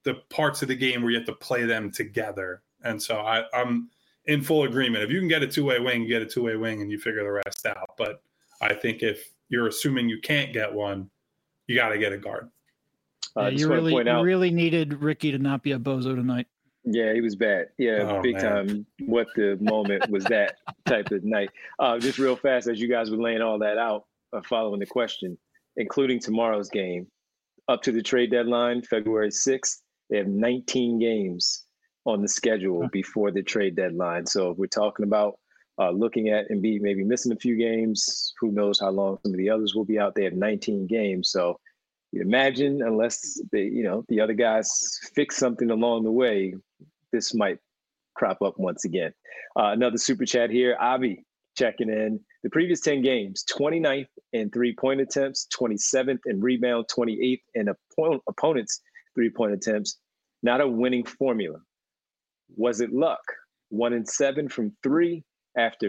the parts of the game where you have to play them together. And so I'm in full agreement. If you can get a two-way wing, you get a two-way wing and you figure the rest out. But I think if you're assuming you can't get one, you got to get a guard. You really needed Ricky to not be a bozo tonight. Yeah, he was bad. Yeah, big time. What the moment was that type of night. Just real fast, as you guys were laying all that out, following the question, including tomorrow's game, up to the trade deadline, February 6th, they have 19 games on the schedule before the trade deadline. So if we're talking about looking at Embiid maybe missing a few games, who knows how long some of the others will be out. They have 19 games. So you imagine, unless the other guys fix something along the way, this might crop up once again. Another super chat here. Avi checking in. The previous 10 games, 29th in three-point attempts, 27th in rebound, 28th in opponents' three-point attempts. Not a winning formula. Was it luck? 1-7 from three after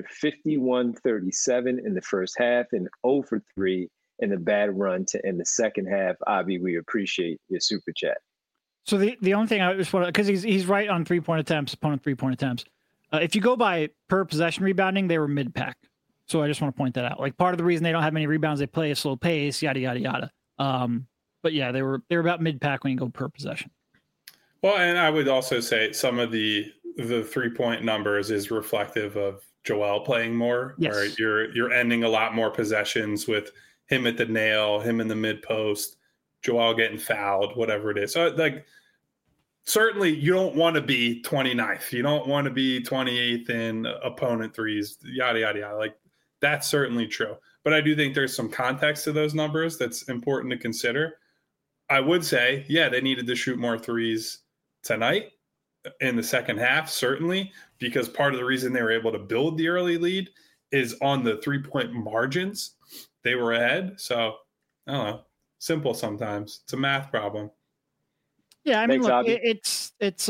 51-37 in the first half and 0 for 3 in the bad run to end the second half. Avi, we appreciate your super chat. So the only thing I just want to, because he's right on three-point attempts, opponent three-point attempts. If you go by per possession rebounding, they were mid-pack. So I just want to point that out. Like, part of the reason they don't have many rebounds, they play a slow pace, yada, yada, yada. But yeah, they were about mid-pack when you go per possession. Well, and I would also say some of the 3-point numbers is reflective of Joel playing more. Yes. Right? You're ending a lot more possessions with him at the nail, him in the mid post, Joel getting fouled, whatever it is. So, like, certainly you don't want to be 29th. You don't want to be 28th in opponent threes, yada, yada, yada. Like, that's certainly true. But I do think there's some context to those numbers that's important to consider. I would say, yeah, they needed to shoot more threes tonight in the second half, certainly, because part of the reason they were able to build the early lead is on the 3-point margins. They were ahead. So, I don't know. Simple sometimes. It's a math problem. Yeah, I mean, Thanks, look, it's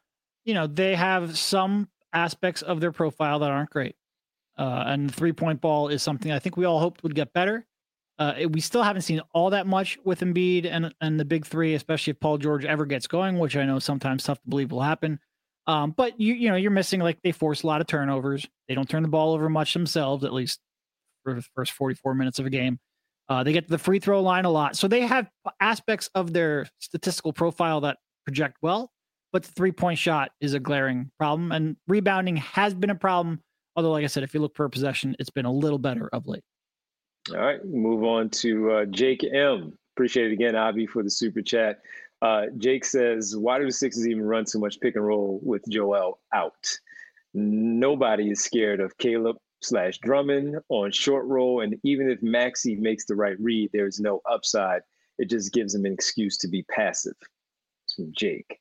they have some aspects of their profile that aren't great. And the 3-point ball is something I think we all hoped would get better. We still haven't seen all that much with Embiid and the big three, especially if Paul George ever gets going, which I know sometimes tough to believe will happen. But you're missing, like, they force a lot of turnovers. They don't turn the ball over much themselves, at least for the first 44 minutes of a game. They get to the free throw line a lot. So they have aspects of their statistical profile that project well, but the 3-point shot is a glaring problem. And rebounding has been a problem. Although, like I said, if you look per possession, it's been a little better of late. All right, move on to Jake M. Appreciate it again, Avi, for the super chat. Jake says, why do the Sixers even run so much pick and roll with Joel out? Nobody is scared of Caleb/Drummond on short roll, and even if Maxey makes the right read, there's no upside. It just gives him an excuse to be passive. It's from Jake.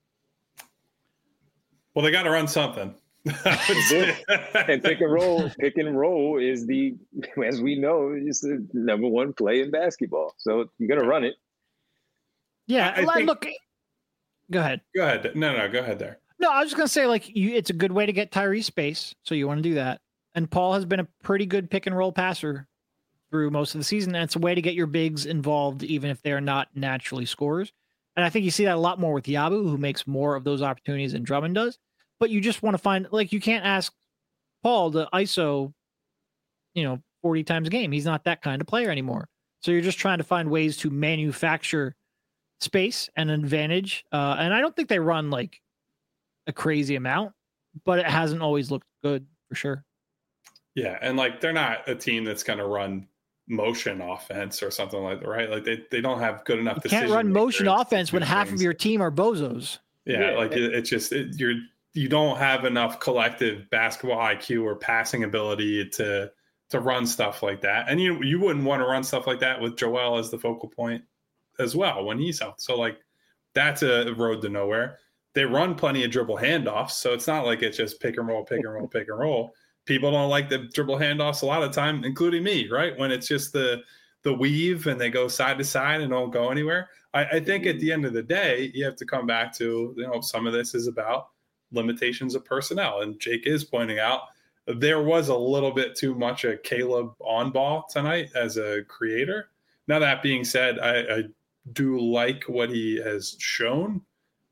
Well, they got to run something. And pick and roll is as we know, is the number one play in basketball. So you're gonna run it. Yeah, look. Go ahead. Go ahead. No, go ahead there. No, I was just gonna say, like, it's a good way to get Tyrese space, so you want to do that. And Paul has been a pretty good pick and roll passer through most of the season, and it's a way to get your bigs involved, even if they're not naturally scorers. And I think you see that a lot more with Yabu, who makes more of those opportunities than Drummond does. But you just want to find, like, you can't ask Paul to ISO, 40 times a game. He's not that kind of player anymore. So you're just trying to find ways to manufacture space and advantage. And I don't think they run, like, a crazy amount, but it hasn't always looked good for sure. Yeah, and, like, they're not a team that's going to run motion offense or something like that, right? Like, they don't have good enough decision. You can't run motion offense when half of your team are bozos. Yeah, like, it's just you don't have enough collective basketball IQ or passing ability to run stuff like that. And you wouldn't want to run stuff like that with Joel as the focal point as well when he's out. So, like, that's a road to nowhere. They run plenty of dribble handoffs, so it's not like it's just pick and roll, pick and roll, pick and roll. People don't like the dribble handoffs a lot of time, including me, right? When it's just the weave and they go side to side and don't go anywhere. I think at the end of the day, you have to come back to, some of this is about limitations of personnel. And Jake is pointing out there was a little bit too much of Caleb on ball tonight as a creator. Now, that being said, I do like what he has shown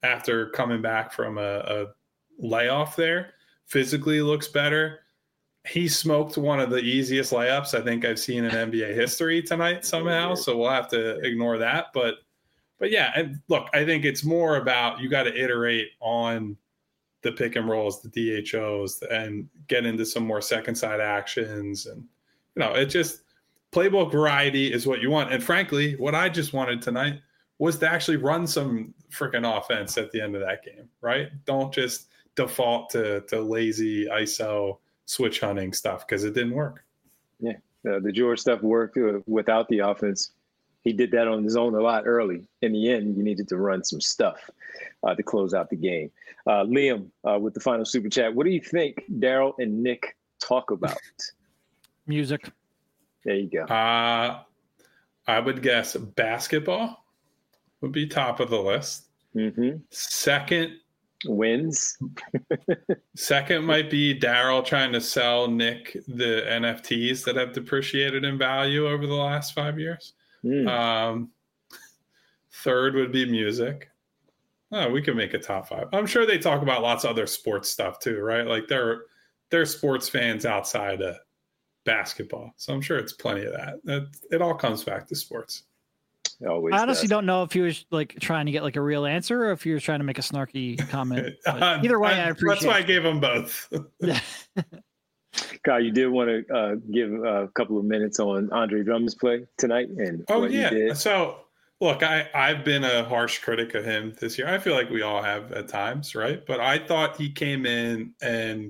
after coming back from a layoff there. Physically looks better. He smoked one of the easiest layups I think I've seen in NBA history tonight somehow. So we'll have to ignore that. But yeah, and look, I think it's more about you got to iterate on the pick and rolls, the DHOs, and get into some more second side actions. And, it just playbook variety is what you want. And frankly, what I just wanted tonight was to actually run some freaking offense at the end of that game, right? Don't just default to lazy ISO switch hunting stuff because it didn't work. Yeah, the George stuff worked without the offense. He did that on his own a lot early. In the end, you needed to run some stuff to close out the game. Liam, with the final super chat, what do you think Daryl and Nick talk about? Music. There you go. I would guess basketball would be top of the list. Mm-hmm. Second, wins. Second might be Daryl trying to sell Nick the NFTs that have depreciated in value over the last 5 years. Third would be music. We can make a top 5. I'm sure they talk about lots of other sports stuff too, right? Like they're sports fans outside of basketball. So I'm sure it's plenty of that. It all comes back to sports. I honestly don't know if he was like trying to get like a real answer or if he was trying to make a snarky comment. Either way, I appreciate it. That's why I gave him both. Kyle, you did want to give a couple of minutes on Andre Drummond's play tonight and what he did. So look, I've been a harsh critic of him this year. I feel like we all have at times, right? But I thought he came in and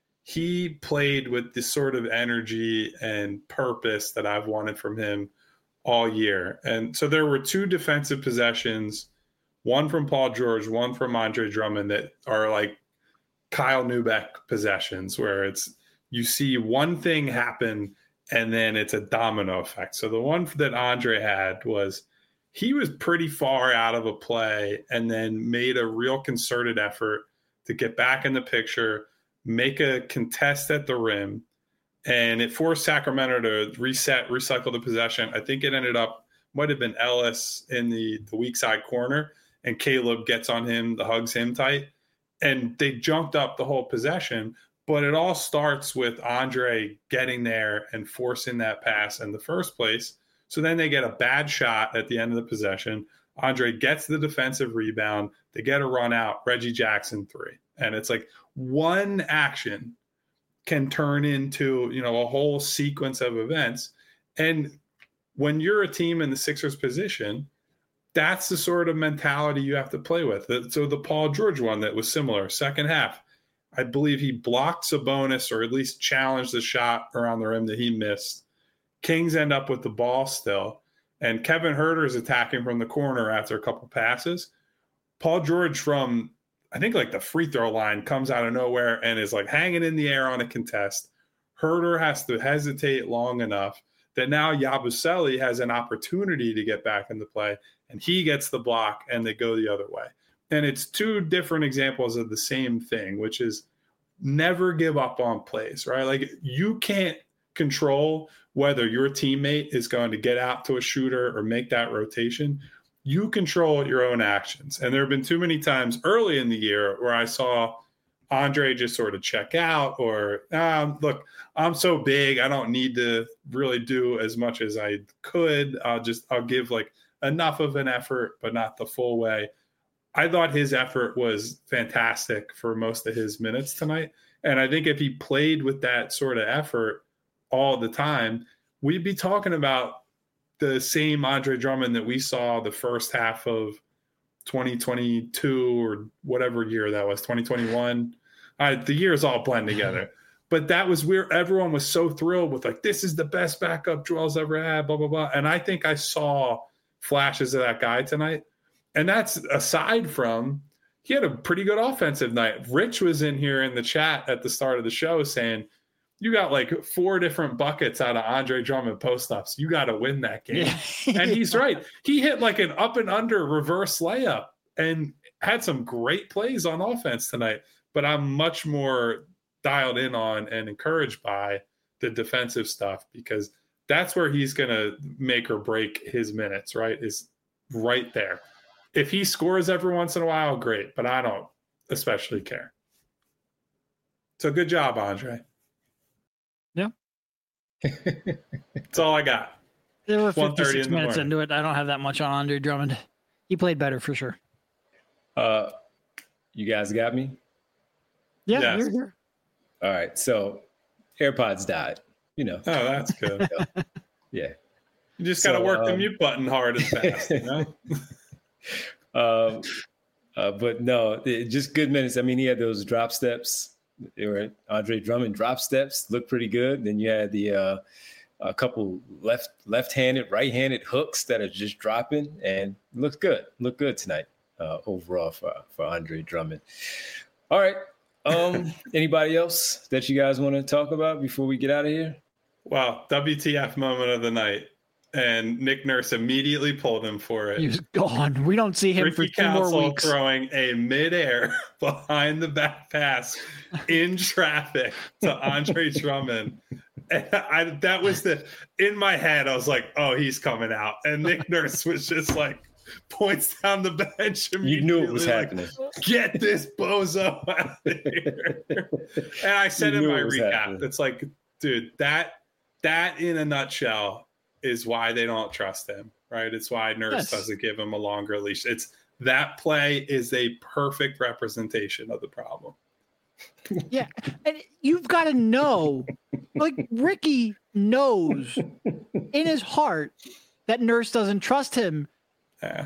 he played with this sort of energy and purpose that I've wanted from him all year. And so there were 2 defensive possessions, one from Paul George, one from Andre Drummond, that are like Kyle Neubeck possessions where you see one thing happen and then it's a domino effect. So the one that Andre had was he was pretty far out of a play and then made a real concerted effort to get back in the picture, make a contest at the rim, and it forced Sacramento to recycle the possession. I think it might have been Ellis in the weak side corner, and Caleb gets on him, hugs him tight, and they jumped up the whole possession. But it all starts with Andre getting there and forcing that pass in the first place. So then they get a bad shot at the end of the possession. Andre gets the defensive rebound. They get a run out, Reggie Jackson 3. And it's like one action can turn into, a whole sequence of events. And when you're a team in the Sixers position, that's the sort of mentality you have to play with. So the Paul George one that was similar, second half, I believe he blocked Sabonis or at least challenged the shot around the rim that he missed. Kings end up with the ball still. And Kevin Huerter is attacking from the corner after a couple passes. Paul George from, I think, like the free throw line comes out of nowhere and is like hanging in the air on a contest. Huerter has to hesitate long enough that now Yabusele has an opportunity to get back into play, and he gets the block and they go the other way. And it's 2 different examples of the same thing, which is never give up on plays, right? Like you can't control whether your teammate is going to get out to a shooter or make that rotation. You control your own actions. And there have been too many times early in the year where I saw Andre just sort of check out or, look, I'm so big, I don't need to really do as much as I could. I'll give like enough of an effort, but not the full way. I thought his effort was fantastic for most of his minutes tonight. And I think if he played with that sort of effort all the time, we'd be talking about the same Andre Drummond that we saw the first half of 2022 or whatever year that was, 2021. The years all blend together. But that was where everyone was so thrilled with like, this is the best backup Joel's ever had, blah, blah, blah. And I think I saw flashes of that guy tonight. And that's aside from he had a pretty good offensive night. Rich was in here in the chat at the start of the show saying, you got like 4 different buckets out of Andre Drummond post-ups. You got to win that game. Yeah. And he's right. He hit like an up and under reverse layup and had some great plays on offense tonight. But I'm much more dialed in on and encouraged by the defensive stuff because that's where he's going to make or break his minutes, right? Is right there. If he scores every once in a while, great, but I don't especially care. So good job, Andre. Yeah. That's all I got. There were 56 in minutes into it. I don't have that much on Andre Drummond. He played better for sure. You guys got me? Yeah, Yes. you're here. All right. So AirPods died, you know. Oh, that's good. Yeah. You just got to work the mute button hard and fast, you know? But no, just good minutes. I mean, he had those drop steps. They were Andre Drummond drop steps, looked pretty good. Then you had the a couple left-handed, right-handed hooks that are just dropping, and looked good. Looked good tonight overall for Andre Drummond. All right. Anybody else that you guys want to talk about before we get out of here? Wow, WTF moment of the night. And Nick Nurse immediately pulled him for it. He was gone. We don't see him Ricky for 2 more Council weeks. throwing a midair behind the back pass in traffic to Andre Drummond. And that was in my head, I was like, oh, he's coming out. And Nick Nurse was just like, points down the bench. You knew it was like, happening. Get this bozo out of here. And I said in my recap, happening. it's like, dude, that in a nutshell is why they don't trust him, right? It's why Nurse doesn't give him a longer leash. It's that play is a perfect representation of the problem. Yeah. And you've got to know, like Ricky knows in his heart that Nurse doesn't trust him. Yeah.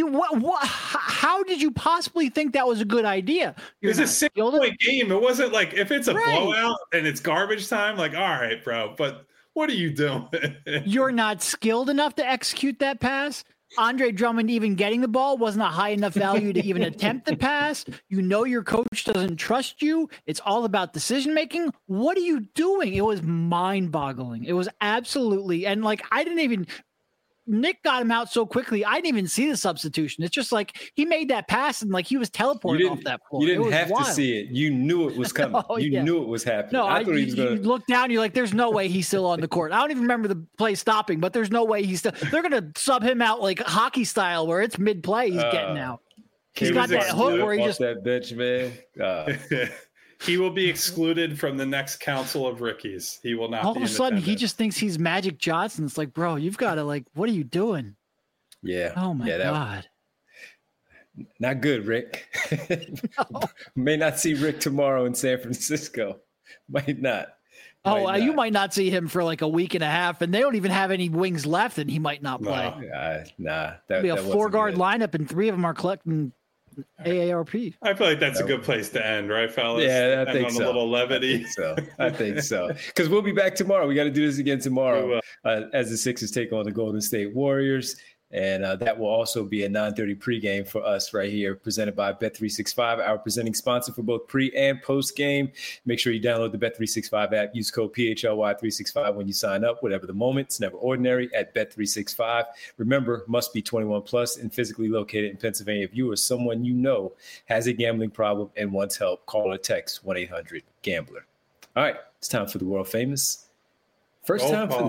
How did you possibly think that was a good idea? It's a 6-point game. It wasn't like if it's a blowout and it's garbage time, like, all right, bro, but what are you doing? You're not skilled enough to execute that pass. Andre Drummond even getting the ball wasn't a high enough value to even attempt the pass. You know your coach doesn't trust you. It's all about decision making. What are you doing? It was mind-boggling. It was absolutely, and like I didn't even. Nick got him out so quickly. I didn't even see the substitution. It's just like he made that pass and like he was teleported off that floor. You didn't have to see it. You knew it was coming. You knew it was happening. No, I thought he was you going to look down. You're like, there's no way he's still on the court. I don't even remember the play stopping, but there's no way he's still. They're going to sub him out like hockey style, where it's mid play. He's getting out. He's got that hook where he just that bitch, man. He will be excluded from the next council of Rickies. He will not. All be of a sudden, he attendance. just thinks he's Magic Johnson. It's like, bro, you've got to like, what are you doing? Yeah. Oh my God. Not good, Rick. No. May not see Rick tomorrow in San Francisco. Might not. You might not see him for like a week and a half, and they don't even have any wings left, and he might not play. Nah. It'll be a 4-guard lineup, and 3 of them are collecting AARP. I feel like that's a good place to end, right, fellas? Yeah, I think so. A little levity. I think so. Because we'll be back tomorrow. We got to do this again tomorrow as the Sixers take on the Golden State Warriors. And that will also be a 9:30 pregame for us right here, presented by Bet365, our presenting sponsor for both pre and post game. Make sure you download the Bet365 app. Use code PHLY365 when you sign up. Whatever the moment, it's never ordinary at Bet365. Remember, must be 21 plus and physically located in Pennsylvania. If you or someone you know has a gambling problem and wants help, call or text 1-800-GAMBLER. All right, it's time for the world famous. First time for the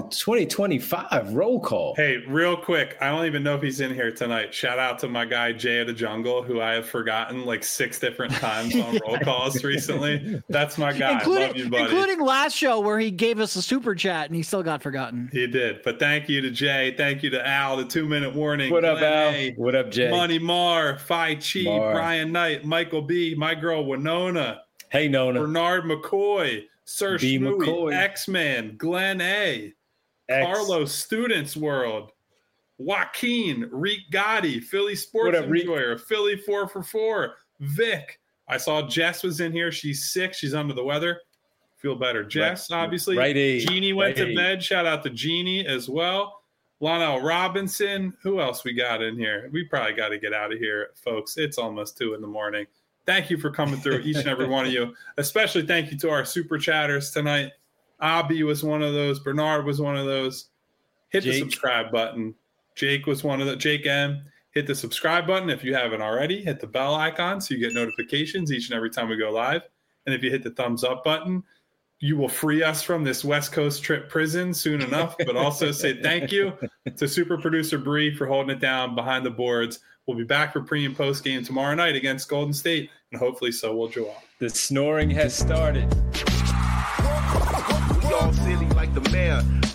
2025 roll call. Hey, real quick, I don't even know if he's in here tonight. Shout out to my guy, Jay of the Jungle, who I have forgotten like 6 different times on roll calls recently. That's my guy. Love you, buddy. Including last show where he gave us a super chat and he still got forgotten. He did. But thank you to Jay. Thank you to Al, the 2-minute warning. What up, Al? A, what up, Jay? Money Mar, Phi Chi, Brian Knight, Michael B, my girl Winona. Hey, Nona. Bernard McCoy. Sir Schmooey, X-Man, Glenn A, Carlos, Students World, Joaquin, Reek Gotti, Philly Sports Enjoyer, Philly 4for4, Vic. I saw Jess was in here. She's sick. She's under the weather. Feel better. Jess, obviously. Right. Jeannie went to bed. Shout out to Jeannie as well. Lonell Robinson. Who else we got in here? We probably got to get out of here, folks. It's almost 2 a.m. Thank you for coming through, each and every one of you. Especially thank you to our super chatters tonight. Abby was one of those. Bernard was one of those. Hit the subscribe button. Jake was one of the. Jake M. Hit the subscribe button if you haven't already. Hit the bell icon so you get notifications each and every time we go live. And if you hit the thumbs up button, you will free us from this West Coast trip prison soon enough, but also say thank you to super producer Bree for holding it down behind the boards. We'll be back for pre and post game tomorrow night against Golden State, and hopefully so will Joel. The snoring has started. We all silly like the mayor.